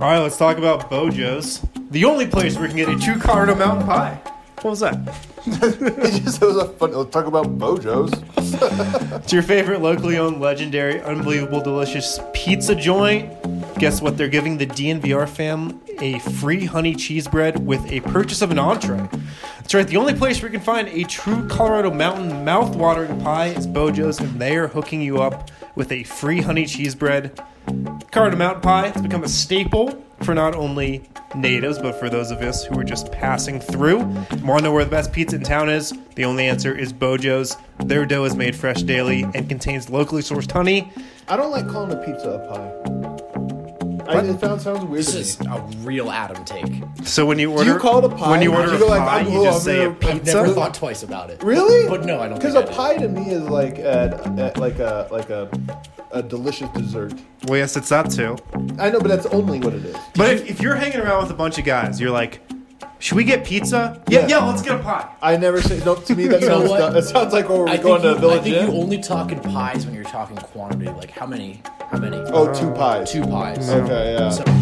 All right, let's talk about Bojo's, the only place where you can get a true Colorado mountain pie. What was that? It was a fun. Let's talk about Bojo's. It's your favorite locally owned, legendary, unbelievable, delicious pizza joint. Guess what? They're giving the DNVR fam a free honey cheese bread with a purchase of an entree. That's right. The only place where you can find a true Colorado mountain mouth-watering pie is Bojo's, and they are hooking you up with a free honey cheese bread. Colorado mountain pie has become a staple for not only natives, but for those of us who are just passing through. Want to know where the best pizza in town is? The only answer is Bojo's. Their dough is made fresh daily and contains locally sourced honey. I don't like calling a pizza a pie. It sounds weird This to is me. a real Adam take. So when you order, Do you call it a pie? When you Do order you go a like, pie, I'm you just say a gonna- I've I've never pizza. thought twice about it. Really? But no, I don't Because think a I pie to me is like a delicious dessert. Well, yes, it's that too. I know, but that's only what it is. But if you're hanging around with a bunch of guys, you're like, should we get pizza? Yeah, let's get a pie. I never say no. To me, that You know sounds what? dumb. It sounds like when I we're think going to you, a I Village think Inn. you only talk in pies when you're talking quantity. Like how many? Oh, 2 pies. 2 pies. Okay, yeah. So,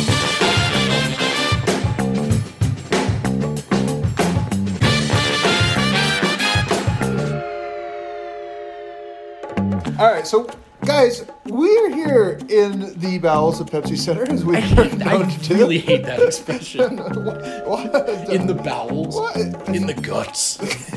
All right, so guys, we're here in the bowels of Pepsi Center as we I really hate that expression. What? In the bowels. What? In the guts.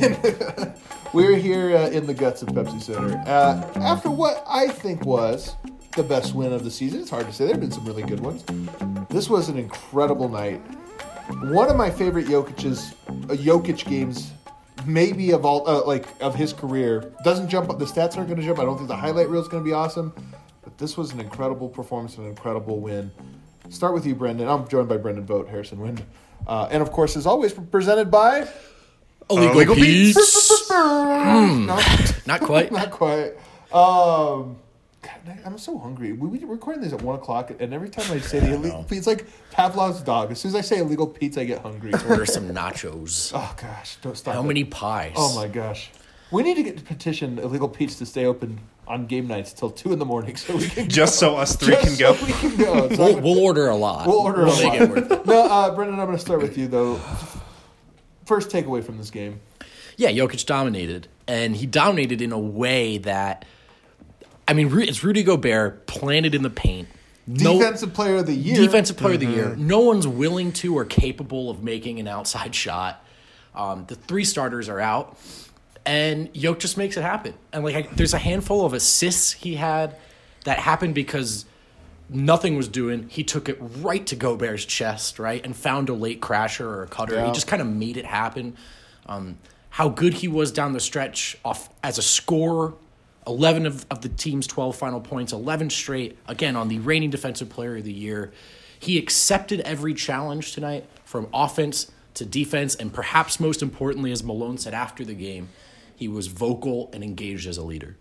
We're here in the guts of Pepsi Center after what I think was the best win of the season. It's hard to say. There have been some really good ones. This was an incredible night. One of my favorite Jokic games, maybe of all of his career. Doesn't jump up. The stats aren't going to jump. I don't think the highlight reel is going to be awesome. But this was an incredible performance and an incredible win. Start with you, Brendan. I'm joined by Brendan Vogt, Harrison Wind, and of course, as always, presented by Illegal Pete's. No, Not quite. not quite. God, I'm so hungry. We're recording these at 1 o'clock, and every time I say the illegal pizza, it's like Pavlov's dog. As soon as I say illegal pizza, I get hungry. Order some nachos. Oh gosh, don't stop. How it. many pies? Oh my gosh, we need to get to petition Illegal Pete's to stay open on game nights till 2 a.m. so we can Just so us three can go. So we can go. It's not We'll order a lot. We'll order a make lot. it worth it. No, Brendan, I'm going to start with you though. First takeaway from this game. Yeah, Jokic dominated, and he dominated in a way that, I mean, it's Rudy Gobert planted in the paint. Defensive player of the year. Defensive player of the year. No one's willing to or capable of making an outside shot. The 3 starters are out, and Jokic just makes it happen. And there's a handful of assists he had that happened because nothing was doing. He took it right to Gobert's chest, right, and found a late crasher or a cutter. Yeah. He just kind of made it happen. How good he was down the stretch off as a scorer. 11 of the team's 12 final points, 11 straight, again, on the reigning defensive player of the year. He accepted every challenge tonight, from offense to defense, and perhaps most importantly, as Malone said after the game, he was vocal and engaged as a leader.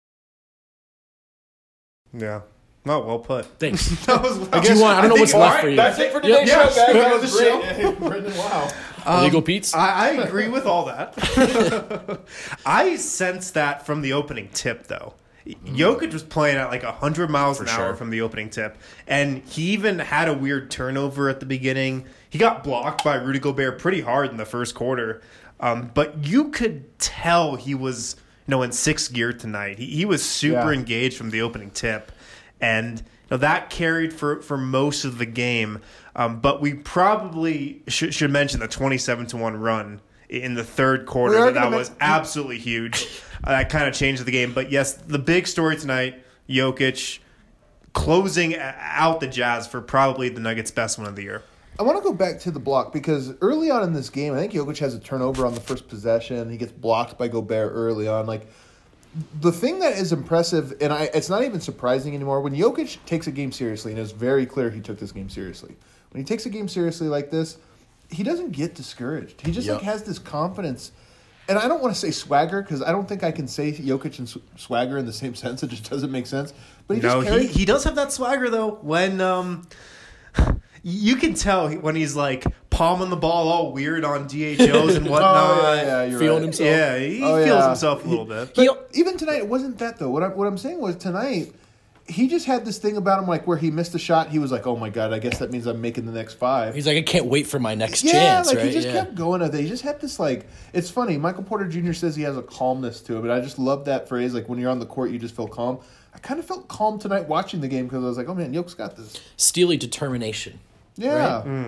Yeah. Not well put. Thanks. That was I don't know what's left for you. That's it for today's Yeah, show, guys. that That was was the great. Brendan, wow. Illegal Pete's? I agree with all that. I sense that from the opening tip, though. Jokic was playing at like 100 miles an hour sure. from the opening tip, and he even had a weird turnover at the beginning. He got blocked by Rudy Gobert pretty hard in the first quarter, but you could tell he was, in 6th gear tonight. He was super engaged from the opening tip, and that carried for most of the game. But we probably should mention the 27-1 run in the third quarter. That was absolutely huge. That kind of changed the game. But yes, the big story tonight, Jokic closing out the Jazz for probably the Nuggets' best win of the year. I want to go back to the block because early on in this game, I think Jokic has a turnover on the first possession. He gets blocked by Gobert early on. The thing that is impressive, and it's not even surprising anymore, when Jokic takes a game seriously, and it's very clear he took this game seriously. When he takes a game seriously like this, he doesn't get discouraged. He just has this confidence. And I don't want to say swagger because I don't think I can say Jokic and swagger in the same sense. It just doesn't make sense. But he does have that swagger though. When you can tell when he's like palming the ball all weird on DHOs and whatnot. You're Feeling right. himself. Yeah, he feels himself a little bit. But even tonight, it wasn't that though. What I'm saying was tonight, he just had this thing about him, like where he missed a shot. He was like, "Oh my god, I guess that means I'm making the next 5." He's like, I can't wait for my next Yeah, chance. like right? he just kept going at it. He just had this like. It's funny. Michael Porter Jr. says he has a calmness to him, but I just love that phrase. Like when you're on the court, you just feel calm. I kind of felt calm tonight watching the game because I was like, "Oh man, Yoke's got this." Steely determination. Yeah.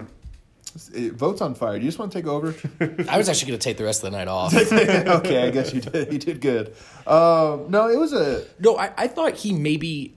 Vote's on fire. Do you just want to take over? I was actually going to take the rest of the night off. Okay, I guess you did. You did good. No, it was a. No, I thought he maybe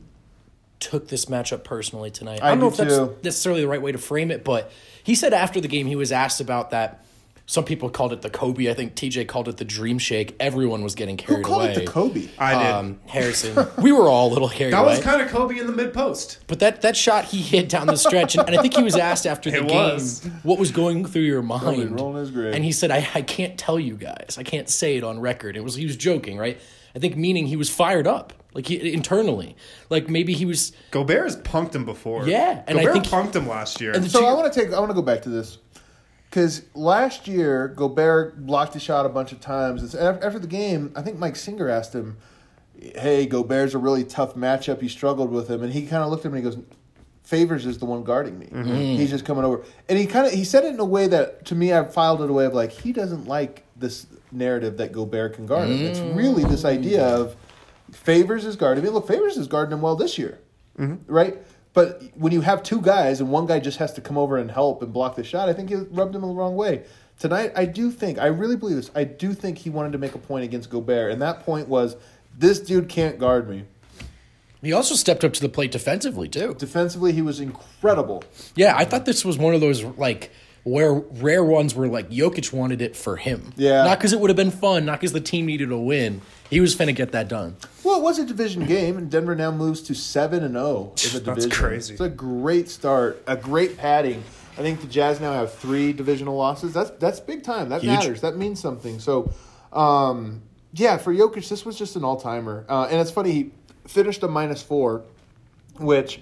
took this matchup personally tonight. I don't know do if that's too. necessarily the right way to frame it, but he said after the game he was asked about that. Some people called it the Kobe. I think TJ called it the Dream Shake. Everyone was getting Who carried called away. it the Kobe? I did. Harrison. We were all a little carried That away. was kind of Kobe in the mid post. But that shot he hit down the stretch, and I think he was asked after the It game was. what was going through your mind. rolling his grave. And he said, I can't tell you guys. I can't say it on record. He was joking, right? I think meaning he was fired up, like internally. Like maybe he was. Gobert has punked him before. Yeah, and I Gobert think- punked him last year. And the- So I want to go back to this because last year Gobert blocked a shot a bunch of times. After the game, I think Mike Singer asked him, "Hey, Gobert's a really tough matchup. You struggled with him," and he kind of looked at me and he goes, "Favors is the one guarding me. He's just coming over." And he said it in a way that to me I filed it away of like he doesn't like this narrative that Gobert can guard him. It's really this idea of Favors is guarding me. Look, Favors is guarding him well this year, right? But when you have two guys and one guy just has to come over and help and block the shot, I think he rubbed him the wrong way. Tonight, I really believe this. I do think he wanted to make a point against Gobert, and that point was, this dude can't guard me. He also stepped up to the plate defensively, too. Defensively, he was incredible. Yeah, I thought this was one of those, like, where rare ones where, like, Jokic wanted it for him. Yeah. Not because it would have been fun, not because the team needed a win. He was finna get that done. Well, it was a division game, and Denver now moves to 7-0 in the division. That's crazy. It's a great start, a great padding. I think the Jazz now have 3 divisional losses. That's big time. That Huge. matters. That means something. So, yeah, for Jokic, this was just an all-timer. And it's funny, he finished a -4, which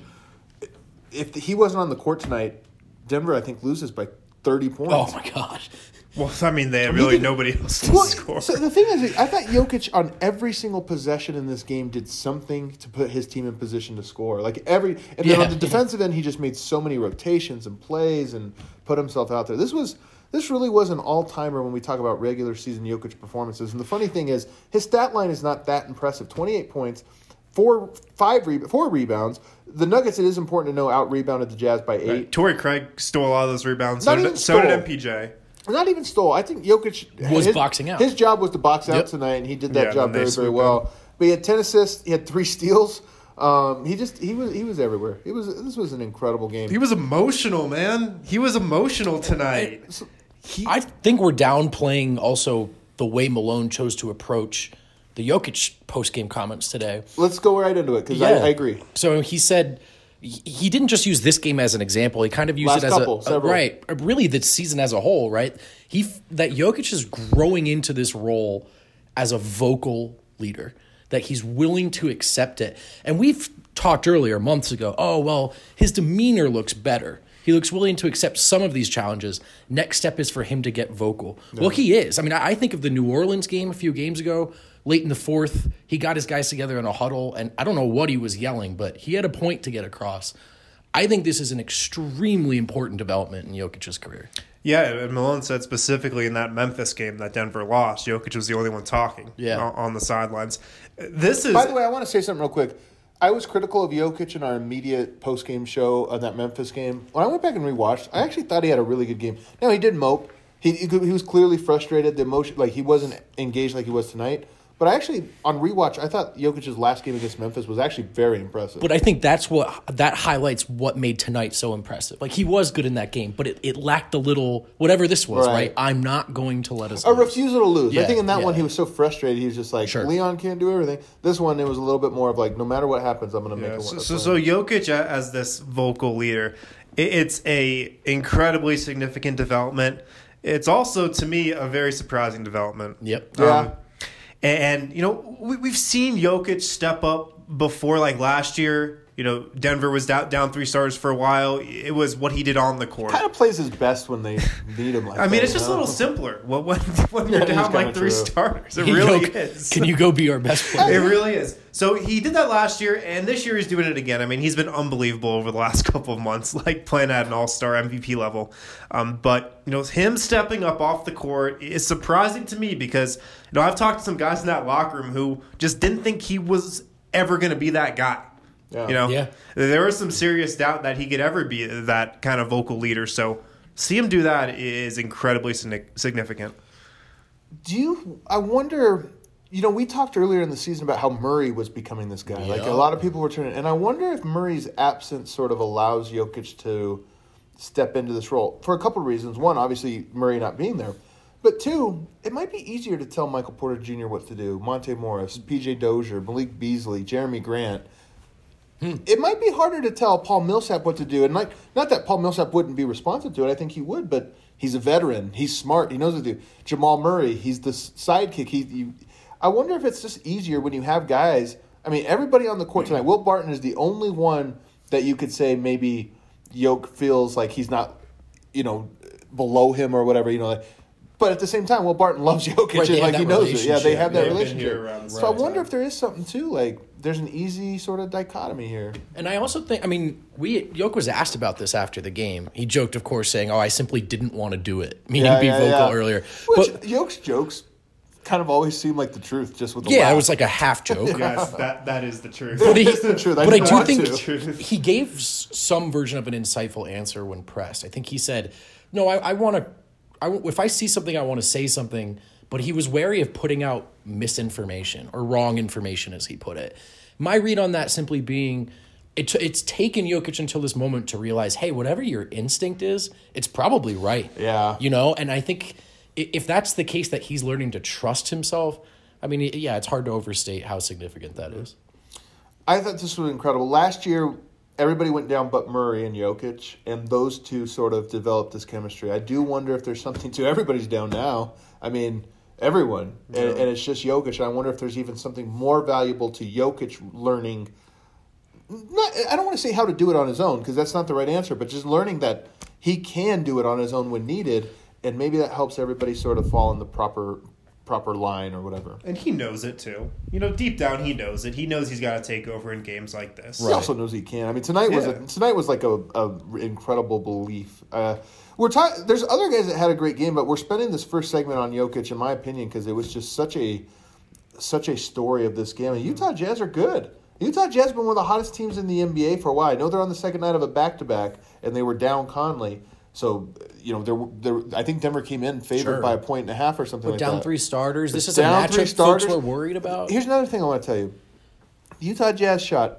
if he wasn't on the court tonight, Denver, I think, loses by 30 points. Oh, my gosh. Well, I mean, they had really nobody else to Well, score. so the thing is, I thought Jokic on every single possession in this game did something to put his team in position to score. And then Yeah. on the defensive end, he just made so many rotations and plays and put himself out there. This really was an all-timer when we talk about regular season Jokic performances. And the funny thing is, his stat line is not that impressive. 28 points, 4 rebounds. The Nuggets, it is important to know, out-rebounded the Jazz by 8. Right. Torrey Craig stole a lot of those rebounds. Not even So did stole. MPJ. Not even stole. I think Jokic Was boxing out. His job was to box out Yep. tonight, and he did that Yeah, job and they very, very swooped well. But he had 10 assists. He had 3 steals. He was everywhere. This was an incredible game. He was emotional, man. He was emotional tonight. I think we're downplaying also the way Malone chose to approach the Jokic post-game comments today. Let's go right into it because Yeah. I agree. So he said he didn't just use this game as an example. He kind of used Last it as couple, several. right, really the season as a whole, right? That Jokic is growing into this role as a vocal leader, that he's willing to accept it. And we've talked earlier, months ago, oh, well, his demeanor looks better. He looks willing to accept some of these challenges. Next step is for him to get vocal. Yeah. Well, he is. I mean, I think of the New Orleans game a few games ago, late in the fourth. He got his guys together in a huddle, and I don't know what he was yelling, but he had a point to get across. I think this is an extremely important development in Jokic's career. Yeah, and Malone said specifically in that Memphis game that Denver lost, Jokic was the only one talking on the sidelines. This is. By the way, I want to say something real quick. I was critical of Jokic in our immediate post-game show of that Memphis game. When I went back and rewatched, I actually thought he had a really good game. Now, he did mope. He was clearly frustrated. The emotion, like he wasn't engaged like he was tonight. But I actually, on rewatch, I thought Jokic's last game against Memphis was actually very impressive. But I think that highlights what made tonight so impressive. Like, he was good in that game, but it lacked a little, whatever this was, right? I'm not going to let us a lose. refusal to lose. Yeah, I think in that yeah. one, he was so frustrated. He was just like, Leon can't do everything. This one, it was a little bit more of like, no matter what happens, I'm going to make a win. So Jokic as this vocal leader, it's a incredibly significant development. It's also, to me, a very surprising development. Yep. Yeah. And, you know, we've seen Jokic step up before, like last year. Denver was down 3 stars for a while. It was what he did on the court. Kind of plays his best when they need him like that. I mean, it's just a little simpler when you're down like 3 starters. It really is. Can you go be our best player? It really is. So he did that last year, and this year he's doing it again. I mean, he's been unbelievable over the last couple of months, like playing at an all-star MVP level. But him stepping up off the court is surprising to me because I've talked to some guys in that locker room who just didn't think he was ever going to be that guy. Yeah. There was some serious doubt that he could ever be that kind of vocal leader. So see him do that is incredibly significant. I wonder, we talked earlier in the season about how Murray was becoming this guy. Like a lot of people were turning, and I wonder if Murray's absence sort of allows Jokic to step into this role for a couple of reasons. One, obviously Murray not being there. But two, it might be easier to tell Michael Porter Jr. what to do. Monte Morris, PJ Dozier, Malik Beasley, Jeremy Grant. It might be harder to tell Paul Millsap what to do. And not that Paul Millsap wouldn't be responsive to it. I think he would, but he's a veteran. He's smart. He knows what to do. Jamal Murray, he's the sidekick. I wonder if it's just easier when you have guys. I mean, everybody on the court tonight, Will Barton is the only one that you could say maybe Yoke feels like he's not, below him or whatever, But at the same time, Will Barton loves Jokic and he knows it. Yeah, they have that relationship. So I wonder if there is something too. There's an easy sort of dichotomy here. And I also think, Yoke was asked about this after the game. He joked, of course, saying, "Oh, I simply didn't want to do it," meaning be vocal earlier. Which Yoke's jokes kind of always seem like the truth, just with the laugh. It was like a half joke. Yes, that is the truth. But it's the truth. I do think he gave some version of an insightful answer when pressed. I think he said, "No, I want to. If I see something, I want to say something," but he was wary of putting out misinformation or wrong information, as he put it. My read on that simply being, it's taken Jokic until this moment to realize, hey, whatever your instinct is, it's probably right. Yeah. And I think if that's the case that he's learning to trust himself, it's hard to overstate how significant that is. I thought this was incredible. Last year, everybody went down but Murray and Jokic, and those two sort of developed this chemistry. I do wonder if there's something to everybody's down now. Everyone. Yeah. And it's just Jokic. And I wonder if there's even something more valuable to Jokic learning. I don't want to say how to do it on his own, because that's not the right answer, but just learning that he can do it on his own when needed, and maybe that helps everybody sort of fall in the proper line or whatever. And he knows it too. Deep down he knows it. He knows he's got to take over in games like this. He also knows he can. Tonight was like a incredible belief. There's other guys that had a great game, but we're spending this first segment on Jokic, in my opinion, because it was just such a story of this game. And Utah Jazz are good. Utah Jazz have been one of the hottest teams in the NBA for a while. I know they're on the second night of a back-to-back, and they were down Conley. So, I think Denver came in favored by 1.5 or something like that. Down 3 starters. This is a matchup folks were worried about. Here's another thing I want to tell you. The Utah Jazz shot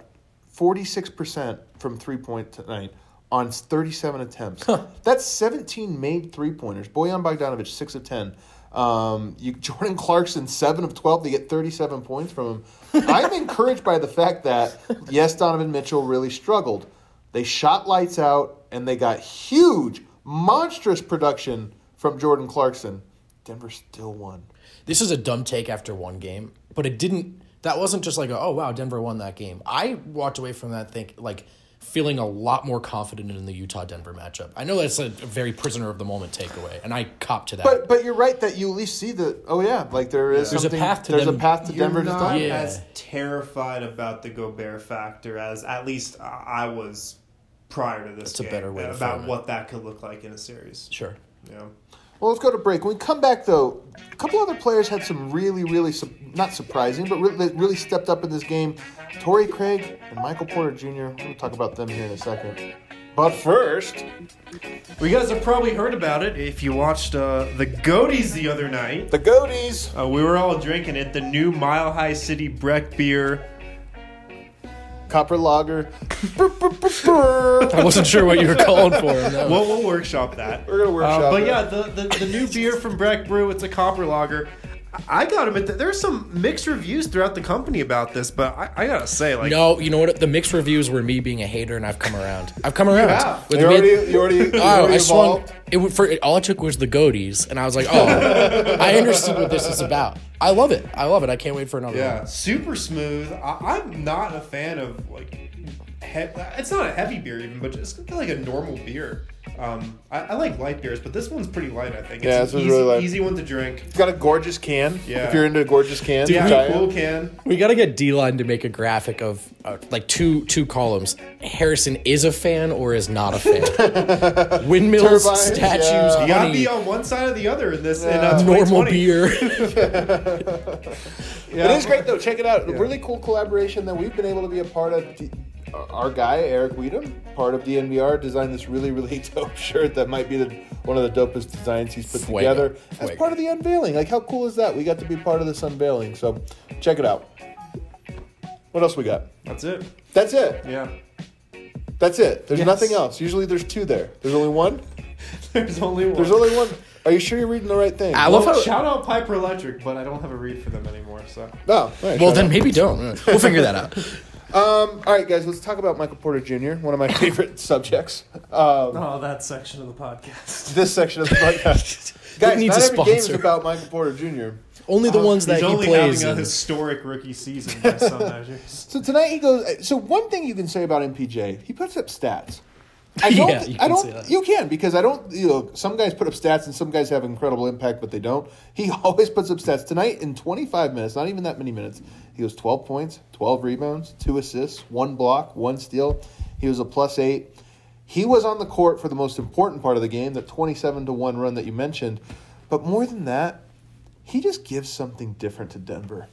46% from three-point tonight on 37 attempts. That's 17 made three-pointers. Bojan Bogdanovic, 6 of 10. Jordan Clarkson, 7 of 12. They get 37 points from him. I'm encouraged by the fact that, yes, Donovan Mitchell really struggled. They shot lights out, and they got huge, monstrous production from Jordan Clarkson. Denver still won. This is a dumb take after one game, but it didn't. That wasn't just like, oh, wow, Denver won that game. I walked away from that feeling a lot more confident in the Utah-Denver matchup. I know that's a very prisoner of the moment takeaway, and I cop to that. But you're right that you at least see that. Oh yeah, there is there's something. A path to there's them. a path to Denver. You're to not stop. as terrified about the Gobert factor as at least I was prior to this game. A better way to about frame it. what that could look like in a series. Sure. Yeah. Well, let's go to break. When we come back, though, a couple other players had some really, really, not surprising, but really stepped up in this game. Torrey Craig and Michael Porter Jr. We're going to talk about them here in a second. But first, well, you guys have probably heard about it if you watched the Goaties the other night. The Goaties. We were all drinking it. The new Mile High City Breck beer. Copper Lager. I wasn't sure what you were calling for. No. We'll workshop that. We're going to workshop But that. yeah, the new beer from Breck Brew, it's a Copper Lager. I gotta admit that there's some mixed reviews throughout the company about this, but I gotta say, no, you know what? The mixed reviews were me being a hater, and I've come around. You have. You already evolved? All it took was the Goaties, and I was like, I understood what this is about. I love it. I can't wait for another one. Super smooth. I'm not a fan of it's not a heavy beer even, but just kind of like a normal beer. I like light beers, but this one's pretty light, I think. It's an really light. Easy one to drink. It's got a gorgeous can. Yeah. If you're into gorgeous cans. Yeah, cool can. We got to get D-Line to make a graphic of like two columns. Harrison is a fan or is not a fan. Windmills, Turbines, statues, yeah. You gotta honey, be on one side or the other in this. normal 2020. beer. It is great though. Check it out. A really cool collaboration that we've been able to be a part of. Our guy Eric Weedham, part of DNVR, designed this really dope shirt that might be one of the dopest designs he's put together as part of the unveiling. Like, how cool is that? We got to be part of this unveiling. So check it out. What else we got? That's it. That's it. Yeah. That's it. There's Yes. nothing else. Usually there's two there. There's only one. There's only one. There's only one. Are you sure you're reading the right thing? I love how. Shout out Piper Electric, but I don't have a read for them anymore. So No. All right, Well, shut then up. maybe don't. We'll figure that out. All right, guys. Let's talk about Michael Porter Jr., one of my favorite subjects. oh, that section of the podcast. This section of the podcast. Guys, needs not a every game is sponsor. about Michael Porter Jr. Only the ones that He's he only plays having a in. historic rookie season by some measures. So tonight he goes. So one thing you can say about MPJ, he puts up stats. I Yeah, don't. you I can don't. say that. You can because I don't. You know, some guys put up stats and some guys have incredible impact, but they don't. He always puts up stats. Tonight in 25 minutes, not even that many minutes, he goes 12 points, 12 rebounds, 2 assists, 1 block, 1 steal. He was a +8. He was on the court for the most important part of the game, that 27-1 run that you mentioned. But more than that, he just gives something different to Denver.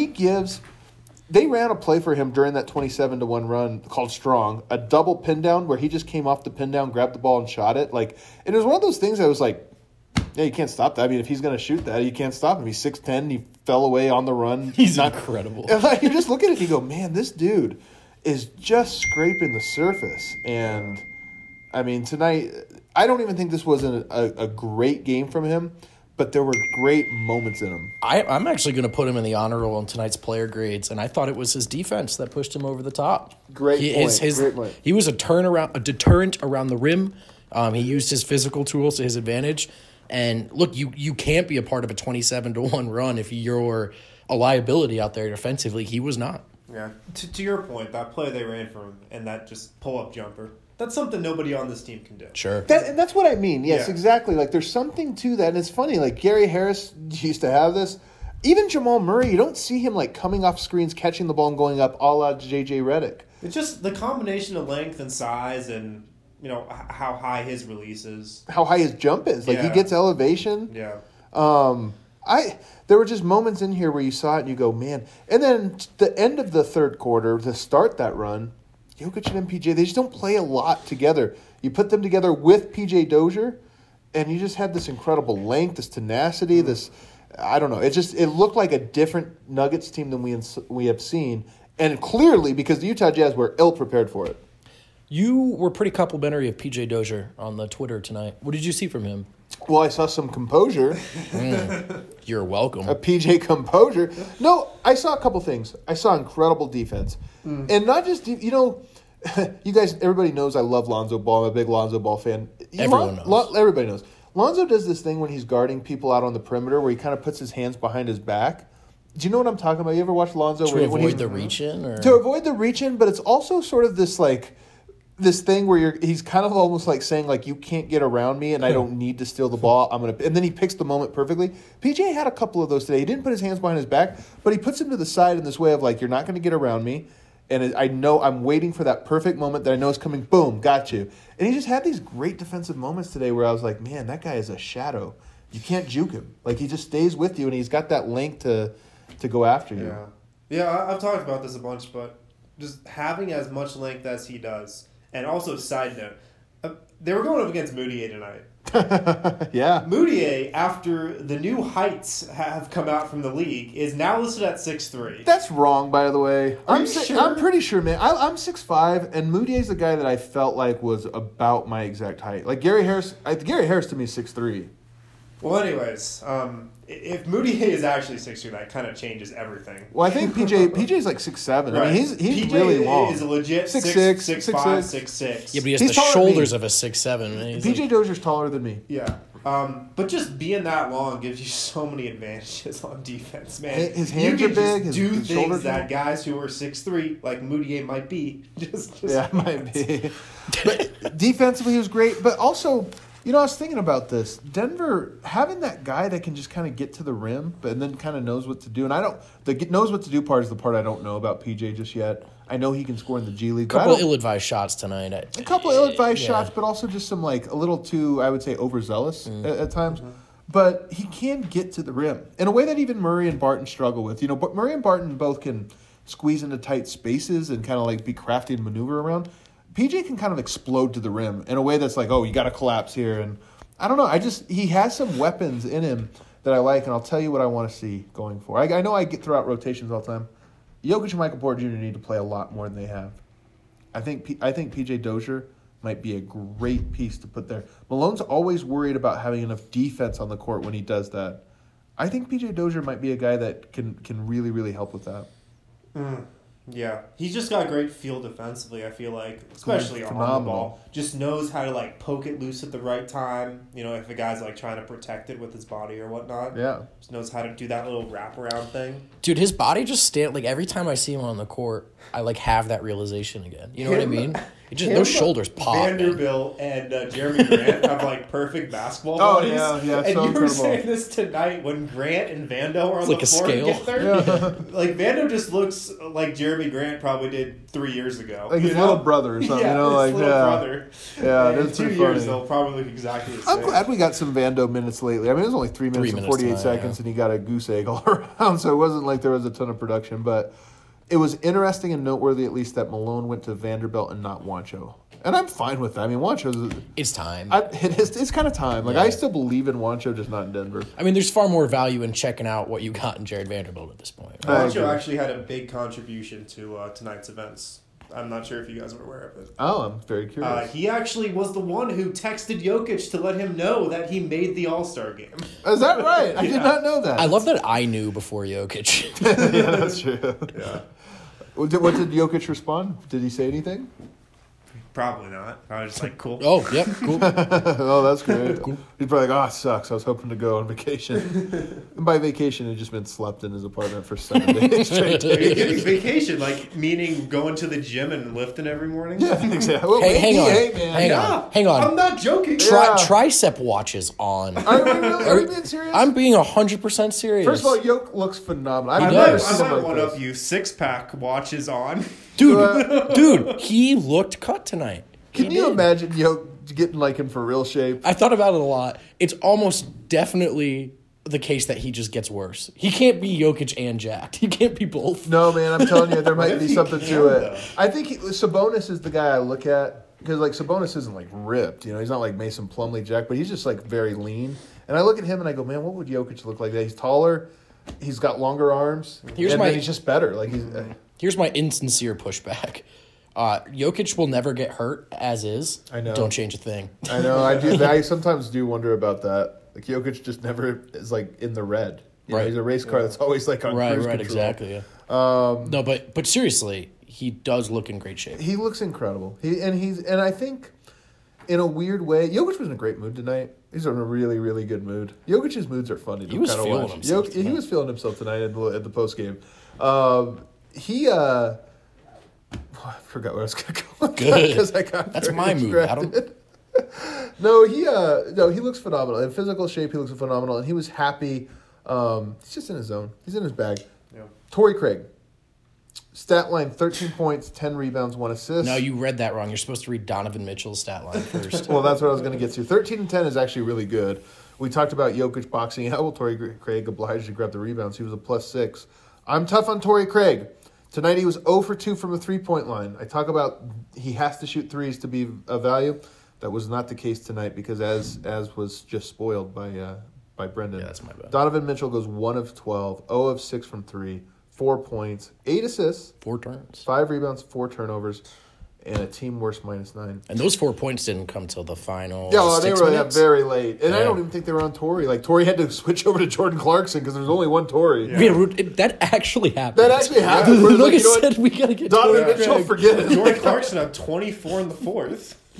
They ran a play for him during that 27-1 run called Strong, a double pin down where he just came off the pin down, grabbed the ball, and shot it. And it was one of those things that was like, yeah, you can't stop that. I mean, if he's going to shoot that, you can't stop him. He's 6'10", he fell away on the run. He's incredible. And you just look at it and you go, man, this dude is just scraping the surface. And, I mean, tonight, I don't even think this was a great game from him, but there were great moments in him. I'm actually going to put him in the honor roll in tonight's player grades, and I thought it was his defense that pushed him over the top. Great point. He was a deterrent around the rim. He used his physical tools to his advantage. And look, you can't be a part of a 27-1 run if you're a liability out there defensively. He was not. Yeah. To your point, that play they ran for him and that just pull-up jumper, that's something nobody on this team can do. Sure. And that's what I mean. Yes, Yeah. exactly. Like, there's something to that. And it's funny, like, Gary Harris used to have this. Even Jamal Murray, you don't see him, like, coming off screens, catching the ball, and going up a la J.J. Redick. It's just the combination of length and size and, how high his release is. How high his jump is. Like, he Yeah. gets elevation. Yeah. There were just moments in here where you saw it and you go, man. And then the end of the third quarter, to start that run, Jokic and MPJ, they just don't play a lot together. You put them together with PJ Dozier, and you just had this incredible length, this tenacity, this, I don't know. It looked like a different Nuggets team than we have seen. And clearly, because the Utah Jazz were ill-prepared for it. You were pretty complimentary of PJ Dozier on the Twitter tonight. What did you see from him? Well, I saw some composure, You're welcome. a PJ composure. No, I saw a couple things. I saw incredible defense. And not just, you guys, everybody knows I love Lonzo Ball. I'm a big Lonzo Ball fan. Everyone knows. Everybody knows. Lonzo does this thing when he's guarding people out on the perimeter where he kind of puts his hands behind his back. Do you know what I'm talking about? You ever watch Lonzo? To avoid the reach-in? Or? To avoid the reach-in, but it's also sort of this, like, this thing where he's kind of almost like saying, like, you can't get around me and I don't need to steal the ball. And then he picks the moment perfectly. PJ had a couple of those today. He didn't put his hands behind his back, but he puts him to the side in this way of, like, you're not going to get around me. And I know I'm waiting for that perfect moment that I know is coming. Boom, got you. And he just had these great defensive moments today where I was like, man, that guy is a shadow. You can't juke him. Like, he just stays with you, and he's got that length to go after you. Yeah, I've talked about this a bunch, but just having as much length as he does. And also, side note, they were going up against Moutier tonight. Yeah. Moutier, after the new heights have come out from the league, is now listed at 6'3". That's wrong, by the way. Are you sure? I'm pretty sure, man. I'm 6'5", and Moutier's the guy that I felt like was about my exact height. Like, Gary Harris to me is 6'3". Well, anyways, if Moutier is actually 6'3", that kind of changes everything. Well, I think PJ's like 6'7". Right. I mean, he's PJ really long. is a legit 6'6", 6'5", 6'6". Yeah, but he has He's the taller than me. shoulders of a 6'7". PJ Dozier's taller than me. Yeah. But just being that long gives you so many advantages on defense, man. His hands you are can big. Just His do shoulders things that are- guys who are 6'3", like Moutier might be. Just Yeah, it might be. But defensively, he was great. But also, I was thinking about this. Denver having that guy that can just kind of get to the rim, but and then kind of knows what to do. And knows what to do part is the part I don't know about PJ just yet. I know he can score in the G League. A couple of ill-advised shots tonight. A couple ill-advised shots, but also just some a little too, I would say, overzealous at times. But he can get to the rim in a way that even Murray and Barton struggle with. But Murray and Barton both can squeeze into tight spaces and kind of be crafty and maneuver around. PJ can kind of explode to the rim in a way that's you got to collapse here. And I don't know. He has some weapons in him that I like, and I'll tell you what I want to see going forward. I know I get throughout rotations all the time. Jokic and Michael Porter Jr. need to play a lot more than they have. I think PJ Dozier might be a great piece to put there. Malone's always worried about having enough defense on the court when he does that. I think PJ Dozier might be a guy that can really, really help with that. Yeah, he's just got great feel defensively, I feel like, especially on the Phenomenal. ball. Just knows how to poke it loose at the right time. If a guy's trying to protect it with his body or whatnot. Yeah. Just knows how to do that little wraparound thing. Dude, his body just every time I see him on the court, I have that realization again. You know what I mean? Those shoulders pop. man. Vanderbilt and Jeremy Grant have perfect basketball Oh, bodies. yeah, And so you were incredible. saying this tonight when Grant and Vando are on It's the like a floor scale. together. Vando just looks like Jeremy Grant probably did 3 years ago. Like his little brother or something, Yeah, his little brother. Yeah, And in that's 2 pretty years funny. they'll probably look exactly the same. I'm glad we got some Vando minutes lately. I mean, it was only 3 minutes and minutes 48 tonight, seconds, yeah. and he got a goose egg all around, so it wasn't like there was a ton of production. But it was interesting and noteworthy, at least, that Malone went to Vanderbilt and not Wancho. And I'm fine with that. I mean, Wancho's... It's time. It's kind of time. I still believe in Wancho, just not in Denver. I mean, there's far more value in checking out what you got in Jared Vanderbilt at this point. I Wancho agree. actually had a big contribution to tonight's events. I'm not sure if you guys are aware of it. Oh, I'm very curious. He actually was the one who texted Jokic to let him know that he made the All-Star game. Is that right? I did Yeah. not know that. I love that I knew before Jokic. Yeah, that's true. Yeah. What did Jokic respond? Did he say anything? Probably not. I was just cool. Oh, yep, cool. Oh, that's great. He's probably like, it sucks. I was hoping to go on vacation. And by vacation, it just meant slept in his apartment for 7 days straight. You're getting vacation, meaning going to the gym and lifting every morning? Yeah, exactly. Well, Hey, hang on. hey, man. Hang on. Hang on. I'm not joking. Yeah. Tricep watches on. Are we really? Are we being serious? I'm being 100% serious. First of all, Yoke looks phenomenal. I've I never might, seen him like one this. up you. 6-pack watches on. dude, he looked cut tonight. Can you imagine Yoke getting in for real shape? I thought about it a lot. It's almost definitely the case that he just gets worse. He can't be Jokic and jacked. He can't be both. No, man, I'm telling you, there might if be he something can, to it. though? I think Sabonis is the guy I look at because Sabonis isn't ripped. He's not like Mason Plumlee jacked, but he's just very lean. And I look at him and I go, man, what would Jokic look like? He's taller, he's got longer arms, and then he's just better. Here's my insincere pushback. Jokic will never get hurt as is. I know. Don't change a thing. I know. I do. I sometimes do wonder about that. Jokic just never is in the red. Right. He's a race car that's always on cruise Right, control. exactly. Yeah. No, but seriously, he does look in great shape. He looks incredible. And I think in a weird way, Jokic was in a great mood tonight. He's in a really, really good mood. Jokic's moods are fun to He was kind of feeling watch. himself He tonight. was feeling himself tonight at the post game. I forgot where I was going to go. Good. Because I got That's very my mood, Adam. distracted. No, he looks phenomenal. In physical shape, he looks phenomenal, and he was happy. He's just in his zone. He's in his bag. Yeah. Torrey Craig, stat line: 13 points, 10 rebounds, 1 assist. No, you read that wrong. You're supposed to read Donovan Mitchell's stat line first. Well, that's what I was going to get to. 13 and 10 is actually really good. We talked about Jokic boxing out. Well, Torrey Craig obliged to grab the rebounds. He was a +6. I'm tough on Torrey Craig. Tonight he was 0 for 2 from the three-point line. I talk about he has to shoot threes to be of value. That was not the case tonight because as was just spoiled by Brendan. Yeah, that's my bad. Donovan Mitchell goes 1 of 12, 0 of 6 from 3, 4 points, 8 assists, 4 turns. 5 rebounds, 4 turnovers, and a team worst -9. And those 4 points didn't come till the final Yeah, well, they 6 were minutes. very late. And I Yeah. don't even think they were on Torrey. Torrey had to switch over to Jordan Clarkson because there's only one Torrey. Yeah, that actually happened. That actually happened. Where Look, you know said what? we gotta get Donovan Torrey Mitchell, Craig. forget it. Jordan Clarkson had 24 in the fourth.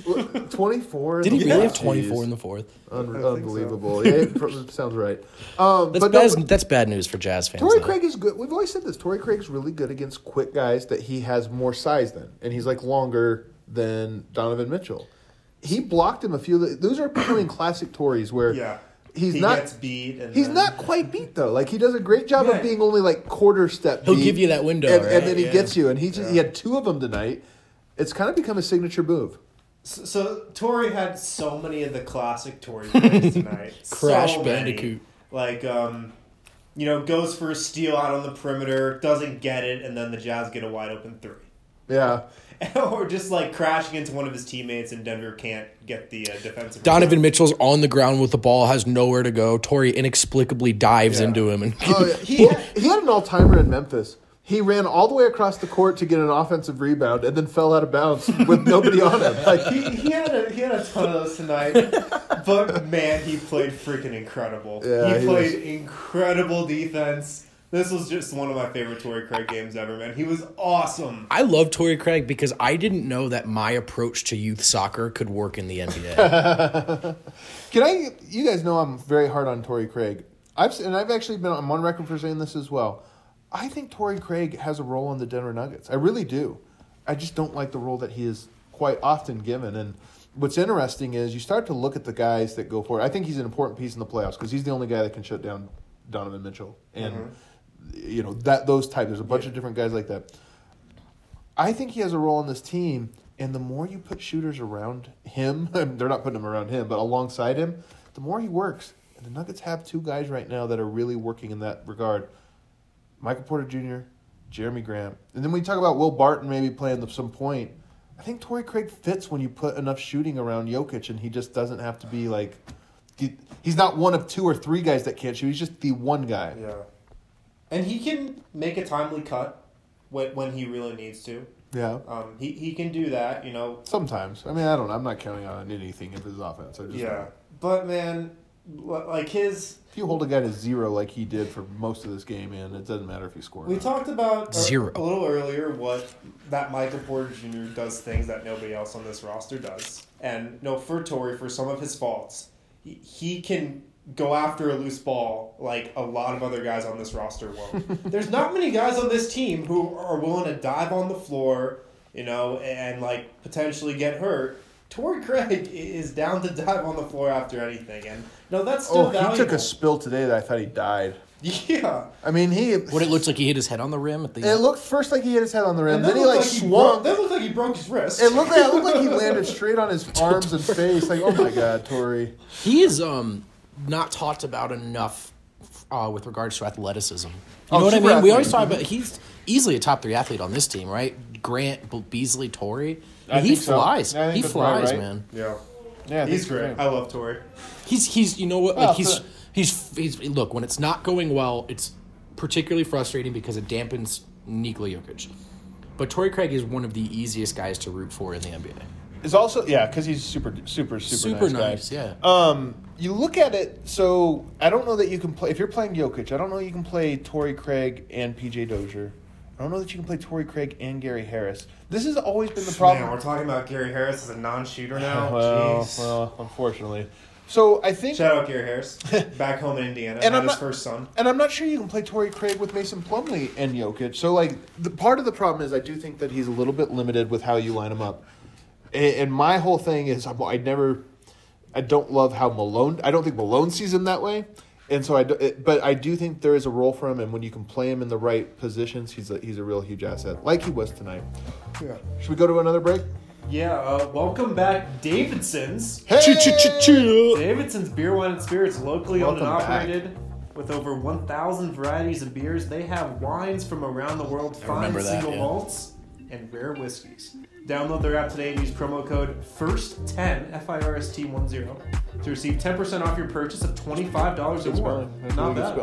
24. Did he really have Jeez. 24 in the fourth? Unbelievable. Yeah, it sounds right. But That's bad news for Jazz fans. Torrey though. Craig is good. We've always said this. Torrey Craig's really good against quick guys that he has more size than. And he's like longer than Donovan Mitchell. He blocked him a few. Those are becoming classic Torreys where he gets beat. And he's then... not quite beat, though. Like, he does a great job of being only like quarter step He'll beat. give you that window, and, right? and then he gets you. And he had 2 of them tonight. It's kind of become a signature move. So Torrey had so many of the classic Torrey plays tonight. Crash so Bandicoot. Many. Like, goes for a steal out on the perimeter, doesn't get it, and then the Jazz get a wide open 3. Yeah. Or just like crashing into one of his teammates and Denver can't get the defensive. Donovan Mitchell's on the ground with the ball, has nowhere to go. Torrey inexplicably dives into him. And He had an all-timer in Memphis. He ran all the way across the court to get an offensive rebound and then fell out of bounds with nobody on him. Like he had a ton of those tonight, but man, he played freaking incredible. Yeah, he played incredible defense. This was just one of my favorite Torrey Craig games ever, man. He was awesome. I love Torrey Craig because I didn't know that my approach to youth soccer could work in the NBA. You guys know I'm very hard on Torrey Craig. I've actually been on record for saying this as well. I think Torrey Craig has a role in the Denver Nuggets. I really do. I just don't like the role that he is quite often given. And what's interesting is you start to look at the guys that go for it. I think he's an important piece in the playoffs because he's the only guy that can shut down Donovan Mitchell. And, those types. There's a bunch of different guys like that. I think he has a role in this team. And the more you put shooters around him, they're not putting them around him, but alongside him, the more he works. And the Nuggets have 2 guys right now that are really working in that regard. Michael Porter Jr., Jeremy Grant. And then when you talk about Will Barton maybe playing at some point, I think Torrey Craig fits when you put enough shooting around Jokic and he just doesn't have to be like he's not one of 2 or 3 guys that can't shoot. He's just the one guy. Yeah. And he can make a timely cut when he really needs to. Yeah. He can do that, Sometimes. I mean, I don't know. I'm not counting on anything of his offense. But, man, like his... If you hold a guy to 0 like he did for most of this game, man, it doesn't matter if he scored. We talked about 0 a little earlier what that Michael Porter Jr. does things that nobody else on this roster does. And for Torrey, for some of his faults, he can go after a loose ball like a lot of other guys on this roster won't. There's not many guys on this team who are willing to dive on the floor, and like potentially get hurt. Torrey Craig is down to dive on the floor after anything, and that's still valuable. He took a spill today that I thought he died. Yeah, I mean What it looked like he hit his head on the rim at the. It looked first like he hit his head on the rim, and then he like swung. That looked like he broke his wrist. It looked like he landed straight on his arms and face. Like, oh my god, Torrey. He is not talked about enough with regards to athleticism. You know what I mean? Athlete. We always talk about he's easily a top 3 athlete on this team, right? Grant, Beasley, Torrey. He flies. Yeah, He flies, right. man. Yeah, he's great. I love Torrey. He's you know what? Like he's look, when it's not going well, it's particularly frustrating because it dampens Nikola Jokic. But Torrey Craig is one of the easiest guys to root for in the NBA. Is also because he's super nice guy. Yeah. You look at it. So I don't know that you can play if you're playing Jokic. I don't know you can play Torrey Craig and PJ Dozier. I don't know that you can play Torrey Craig and Gary Harris. This has always been the problem. Man, we're talking about Gary Harris as a non-shooter now. Well, unfortunately. So I think shout out Gary Harris, back home in Indiana, and had his first son. And I'm not sure you can play Torrey Craig with Mason Plumlee and Jokic. So like part of the problem is I do think that he's a little bit limited with how you line him up. And my whole thing is I don't love how I don't think Malone sees him that way. And so but I do think there is a role for him, and when you can play him in the right positions, he's a real huge asset, like he was tonight. Yeah. Should we go to another break? Yeah. Welcome back, Davidson's. Hey! Davidson's Beer, Wine, and Spirits, locally owned and operated. Back. With over 1,000 varieties of beers, they have wines from around the world, fine single malts, and rare whiskeys. Download their app today and use promo code FIRST10, FIRST10, to receive 10% off your purchase of $25 or more. Not bad.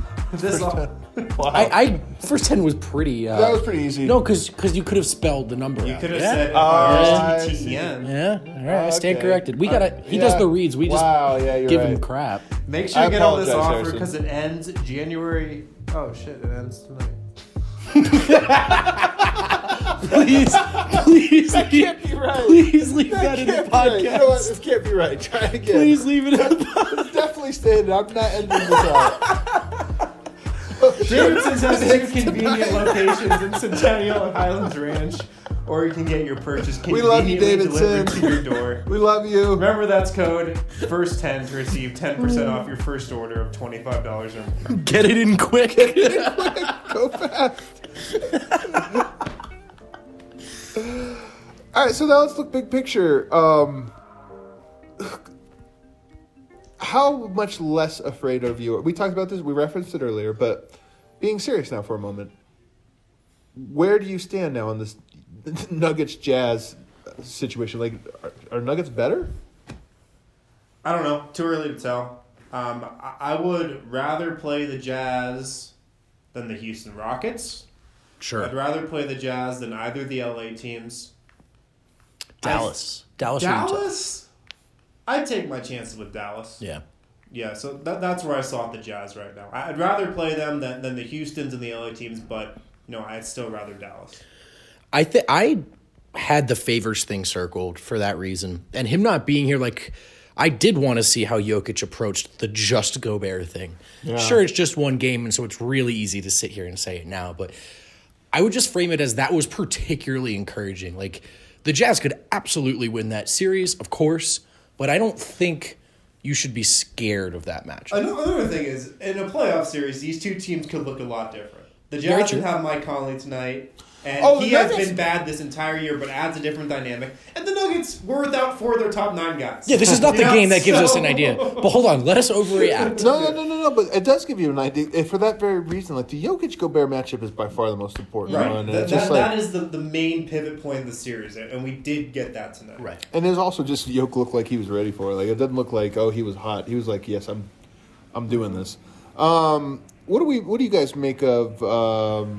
Wow. First 10 was pretty. That was pretty easy. No, because you could have spelled the number. You out. could have said FIRST10. Yeah, all right. I stand corrected. We He does the reads. We just give him crap. Make sure you get on this offer because it ends January. Oh shit! It ends tonight. Please That can't be right. Please leave that in the Can't be right. You know what? podcast. This can't be right. Try again. Please leave it in the podcast. It's definitely staying. I'm not ending this out. Davidson's has two convenient locations in Centennial and Highlands Ranch, or you can get your purchase We love you, conveniently delivered Davidson. to your door. We love you. Remember, that's code FIRST10 to receive 10% off your first order of $25 or more. Get it in quick. Go fast. All right, so now let's look big picture. How much less afraid of you? We talked about this. We referenced it earlier, but being serious now for a moment, where do you stand now in this Nuggets Jazz situation? Like, are Nuggets better? I don't know. Too early to tell. I would rather play the Jazz than the Houston Rockets. Sure. I'd rather play the Jazz than either of the LA teams. Dallas. Dallas. Dallas? I'd take my chances with Dallas. Yeah. Yeah, so that's where I saw the Jazz right now. I'd rather play them than the Houstons and the LA teams, but I'd still rather Dallas. I had the Favors thing circled for that reason. And him not being here, like, I did want to see how Jokic approached the just Gobert thing. Yeah. Sure, it's just one game, and so it's really easy to sit here and say it now, but I would just frame it as that was particularly encouraging. Like, the Jazz could absolutely win that series, of course, but I don't think you should be scared of that match. Another thing is, in a playoff series, these two teams could look a lot different. The Very Jazz true. would have Mike Conley tonight, and Oh, he the has Nuggets- been bad this entire year, but adds a different dynamic. And the Nuggets were without 4 of their top 9 guys. Yeah, this is not the Yeah, game that gives us an so- idea. But hold on, let us overreact. No, but it does give you an idea. And for that very reason, like the Jokic-Gobert matchup is by far the most important Right. one. And That, it's just that like, is the main pivot point of the series, and we did get that tonight. Right. and it was also just Jokic looked like he was ready for it. Like, it doesn't look like, oh, he was hot. He was like, yes, I'm doing this. What do you guys make of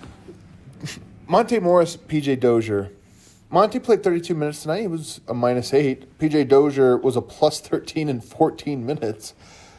Monte Morris, PJ Dozier? Monte played 32 minutes tonight. He was a -8. PJ Dozier was a +13 in 14 minutes.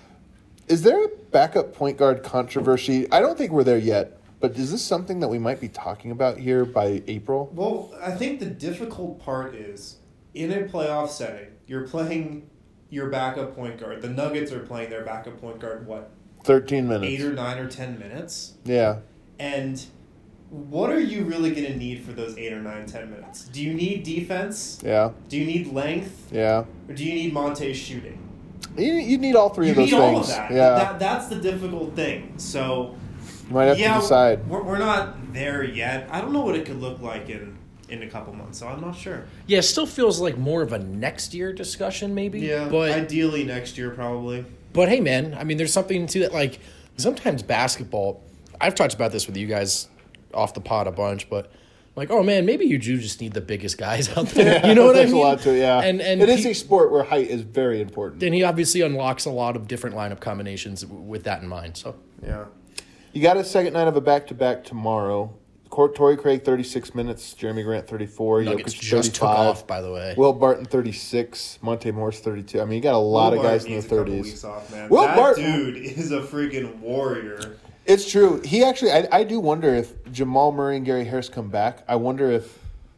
Is there a backup point guard controversy? I don't think we're there yet, but is this something that we might be talking about here by April? Well, I think the difficult part is, in a playoff setting, you're playing your backup point guard. The Nuggets are playing their backup point guard, 13 minutes. 8 or 9 or 10 minutes? Yeah. And what are you really going to need for those 8 or 9, 10 minutes? Do you need defense? Yeah. Do you need length? Yeah. Or do you need Monte's shooting? You need all three You of those need things. all of that. Yeah. That's the difficult thing. So, You might have to decide. We're not there yet. I don't know what it could look like in a couple months, so I'm not sure. Yeah, it still feels like more of a next year discussion, maybe. Yeah, But ideally next year, probably. But hey, man, I mean, there's something to that. Like, sometimes basketball, I've talked about this with you guys off the pod a bunch, but like, oh man, maybe you do just need the biggest guys out there. You know what I There's mean? a lot to it, yeah. And it is a sport where height is very important. and he obviously unlocks a lot of different lineup combinations with that in mind. So Yeah. You got a second night of a back-to-back tomorrow. Torrey Craig, 36 minutes. Jeremy Grant, 34. Nuggets Jokic, just 35. took off, by the way. Will Barton, 36. Monte Morris, 32. I mean, you got a lot of guys in their 30s. Weeks off, man. Will That Barton- dude is a freaking warrior. It's true. He actually, I do wonder if Jamal Murray and Gary Harris come back. I wonder if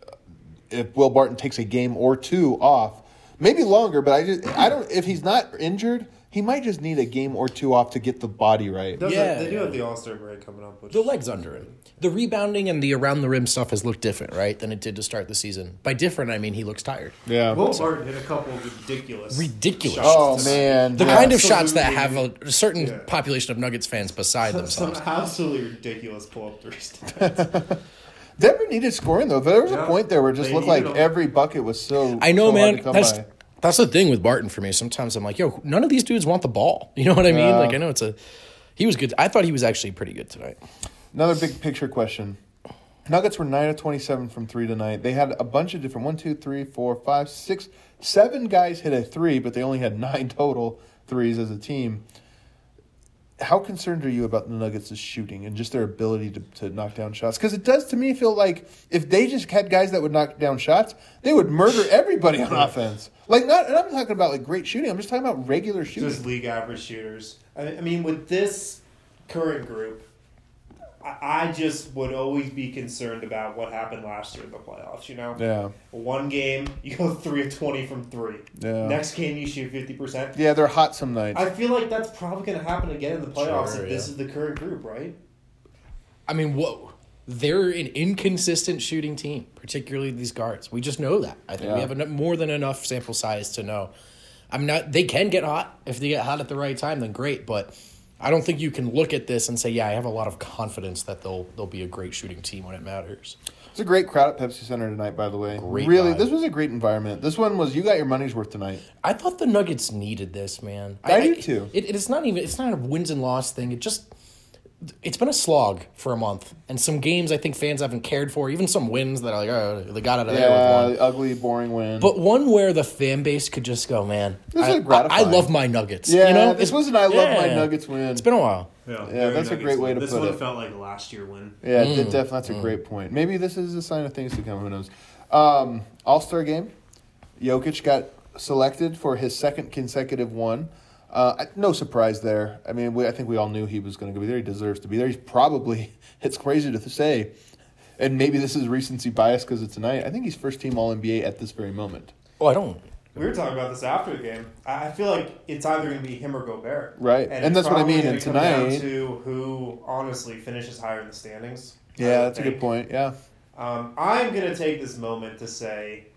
Will Barton takes a game or two off, maybe longer. But I don't. If he's not injured, he might just need a game or two off to get the body right. Yeah. They do have the All-Star break coming up. Which, the legs under him. The rebounding and the around the rim stuff has looked different, right, than it did to start the season. By different, I mean he looks tired. Yeah. Will Barton hit a couple of ridiculous Ridiculous. shots Oh tonight. man. The yeah. kind of shots that have Absolutely. a certain Yeah. population of Nuggets fans beside Some themselves. absolutely ridiculous pull-up threes tonight. Denver needed scoring though. There was a Yeah. point there where it just They looked like needed 'em. every bucket was so. I know, so hard man. to come That's by. that's the thing with Barton for me. Sometimes I'm like, yo, none of these dudes want the ball. You know what I mean? Yeah. Like, I know he was good. I thought he was actually pretty good tonight. Another big picture question. Nuggets were 9 of 27 from 3 tonight. They had a bunch of different 1, 2, 3, 4, 5, 6, 7 guys hit a 3, but they only had 9 total threes as a team. How concerned are you about the Nuggets' shooting and just their ability to knock down shots? Because it does to me feel like if they just had guys that would knock down shots, they would murder everybody on offense. Like not, and I'm talking about like great shooting. I'm just talking about regular shooting. Just league average shooters. I mean, with this current group, I just would always be concerned about what happened last year in the playoffs, Yeah. One game, you go 3 of 20 from 3. Yeah. Next game, you shoot 50%. Yeah, they're hot some nights. I feel like that's probably going to happen again in the playoffs if this yeah. is the current group, right? I mean, whoa. They're an inconsistent shooting team, particularly these guards. We just know that. I think we have more than enough sample size to know. They can get hot. If they get hot at the right time, then great. But I don't think you can look at this and say, yeah, I have a lot of confidence that they'll be a great shooting team when it matters. It's a great crowd at Pepsi Center tonight, by the way. Great really, vibe. This was a great environment. This one was, you got your money's worth tonight. I thought the Nuggets needed this, man. I do too. It's not a wins and loss thing. It's been a slog for a month, and some games I think fans haven't cared for. Even some wins that are like, oh, they got out of there with one. Ugly, boring win. But one where the fan base could just go, man, This I is gratifying. love my Nuggets. Yeah, this was an I love my Nuggets win. It's been a while. Yeah, that's a great way to put it. This one felt like a last year win. Yeah, that's a great point. Maybe this is a sign of things to come. Who knows? All-Star game. Jokic got selected for his second consecutive one. No surprise there. I mean, I think we all knew he was going to be there. He deserves to be there. He's probably, it's crazy to say, and maybe this is recency bias because of tonight. I think he's first-team All-NBA at this very moment. Oh, I don't. We were talking about this after the game. I feel like it's either going to be him or Gobert. Right, and it's that's what I probably mean. gonna And come down tonight, to who honestly finishes higher in the standings. yeah, that's a good point. Yeah, I'm going to take this moment to say,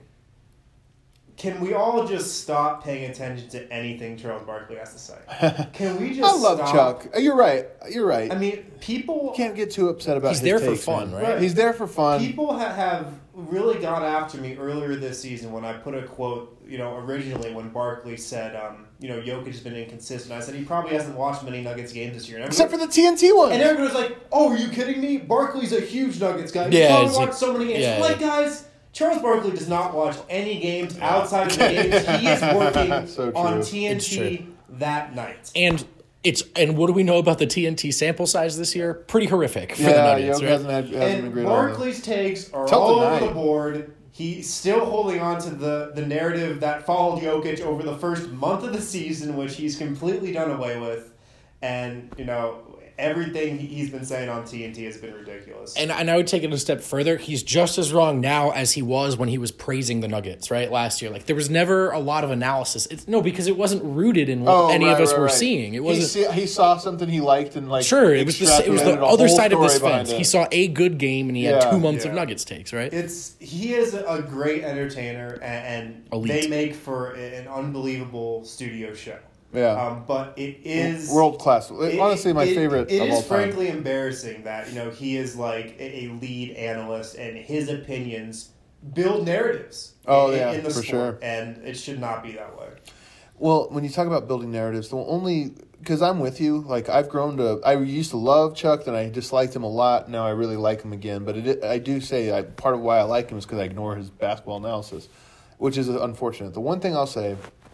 can we all just stop paying attention to anything Charles Barkley has to say? Can we just I love stop? Chuck. You're right. I mean, people Can't get too upset about. He's his there for takes, fun, man. right? He's there for fun. People have really got after me earlier this season when I put a quote, originally when Barkley said, Jokic has been inconsistent. I said he probably hasn't watched many Nuggets games this year. Except for the TNT one. And everyone was like, "Oh, are you kidding me? Barkley's a huge Nuggets guy. Yeah, He's probably it's watched like- so many games." yeah. Like, guys, Charles Barkley does not watch any games outside of the games he is working So true. on It's TNT true. that night. And what do we know about the TNT sample size this year? Pretty horrific for the Yeah, Nuggets, Jokic right? hasn't been And great all year. Barkley's takes are Till all over tonight. the board. He's still holding on to the narrative that followed Jokic over the first month of the season, which he's completely done away with. And, everything he's been saying on TNT has been ridiculous. And I would take it a step further. He's just as wrong now as he was when he was praising the Nuggets, right, last year. Like, there was never a lot of analysis. Because it wasn't rooted in what any of us were seeing. It wasn't. He saw something he liked and Sure, it was the extrapolated a other whole side of this story behind fence. it. He saw a good game and he had 2 months of Nuggets takes, right? He is a great entertainer, and Elite. they make for an unbelievable studio show. Yeah. But it is world class. Honestly, my favorite It of all is time. frankly embarrassing that he is like a lead analyst, and his opinions build narratives. Oh, in the for sport, sure. and it should not be that way. Well, when you talk about building narratives, because I'm with you. Like, I used to love Chuck, then I disliked him a lot. Now I really like him again. But I do say part of why I like him is because I ignore his basketball analysis, which is unfortunate. The one thing I'll say,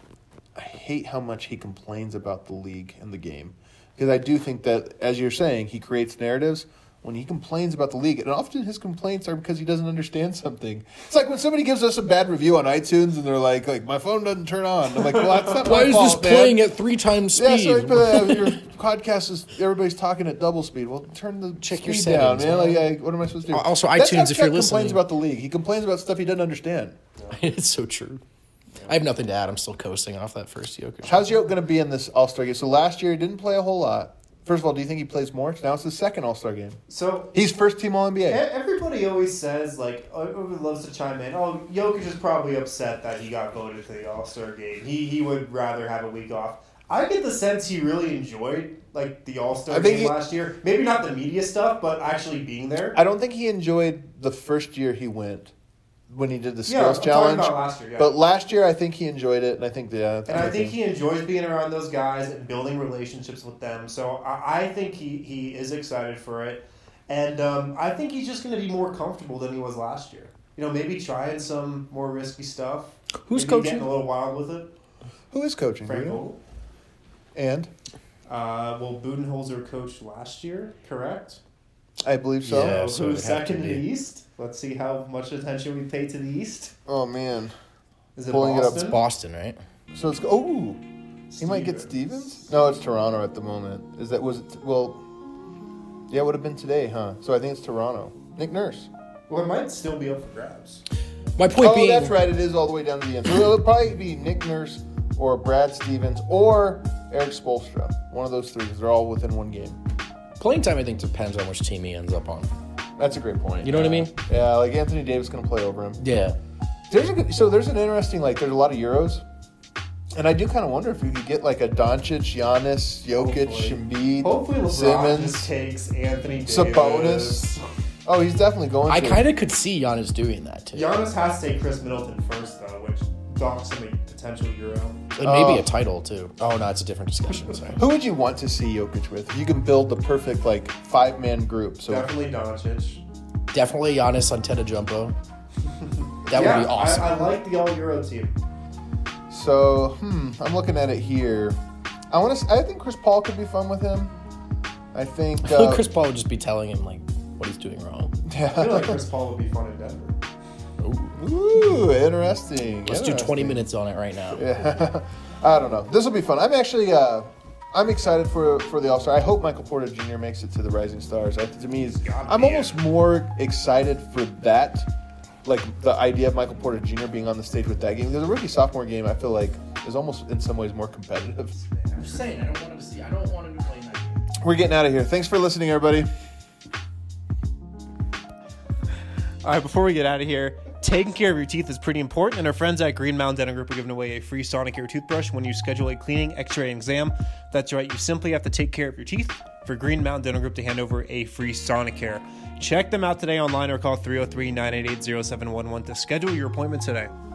I hate how much he complains about the league and the game. Because I do think that, as you're saying, he creates narratives. When he complains about the league, and often his complaints are because he doesn't understand something. It's like when somebody gives us a bad review on iTunes and they're like my phone doesn't turn on. I'm like, well, that's not Why my is fault, this playing at 3 times Yeah, speed? so your podcast is everybody's talking at double speed. Well, turn the Check your speed down, settings, man. man. Like, what am I supposed to do? Also, That's iTunes, how if Chuck you're complains listening. about the league. He complains about stuff he doesn't understand. It's so true. I have nothing to add. I'm still coasting off that first Jokic. How's Jokic going to be in this All-Star game? So last year he didn't play a whole lot. First of all, do you think he plays more? Now it's his second All-Star game. So He's first-team All-NBA. everybody always says, like, everyone loves to chime in. Oh, Jokic is probably upset that he got voted to the All-Star game. He would rather have a week off. I get the sense he really enjoyed, like, the All-Star game last year. Maybe not the media stuff, but actually being there. I don't think he enjoyed the first year he went when he did the Yeah, skills I'm challenge. talking about last year, yeah. But last year I think he enjoyed it, and I think I think he enjoys being around those guys and building relationships with them. So I think he is excited for it. And I think he's just going to be more comfortable than he was last year. Maybe trying some more risky stuff. Who's maybe coaching? Getting a little wild with it. Who is coaching? Frank do you know? Vogel. And Well, Budenholzer coached last year, correct? I believe so. Yeah. So so who's it'd have to second in the be. East? Let's see how much attention we pay to the East. Oh man. Is it Pulling it up. Boston? Boston, right? So it's he might get Stevens. No, it's Toronto at the moment. Was it? Well, Yeah, it would have been today, huh? So I think it's Toronto. Nick Nurse. Well, it might still be up for grabs. My point being, that's right. It is all the way down to the end. So it'll probably be Nick Nurse or Brad Stevens or Eric Spoelstra. One of those three, because they're all within one game. playing time, I think, depends on which team he ends up on. That's a great point. You know what I mean? Yeah, like Anthony Davis going to play over him. Yeah. There's an interesting, there's a lot of Euros. And I do kind of wonder if you could get like a Doncic, Giannis, Jokic, Embiid, Hopefully LeBron Simmons, just takes Anthony Davis. Sabonis. Oh, he's definitely going I to. kind of could see Giannis doing that, too. Giannis has to take Chris Middleton first, though, which docks him a potential Euro. And maybe a title, too. Oh, no, it's a different discussion. Sorry. Who would you want to see Jokic with? If you can build the perfect, five-man group. So Definitely Doncic. Definitely Giannis Antetokounmpo. That would be awesome. I like the All-Euro team. So, I'm looking at it here. I think Chris Paul could be fun with him. I think I feel like Chris Paul would just be telling him, what he's doing wrong. I feel like Chris Paul would be fun in Denver. Ooh, interesting. Let's do 20 minutes on it right now. Yeah. I don't know. This will be fun. I'm actually I'm excited for the All-Star. I hope Michael Porter Jr. makes it to the Rising Stars. To me, I'm almost more excited for that, the idea of Michael Porter Jr. being on the stage with that game. Because the rookie-sophomore game, I feel like, is almost in some ways more competitive. I'm just saying, I don't want him to play that game. We're getting out of here. Thanks for listening, everybody. All right, before we get out of here, taking care of your teeth is pretty important, and our friends at Green Mountain Dental Group are giving away a free Sonicare toothbrush when you schedule a cleaning, x-ray, and exam. That's right, you simply have to take care of your teeth for Green Mountain Dental Group to hand over a free Sonicare. Check them out today online or call 303-988-0711 to schedule your appointment today.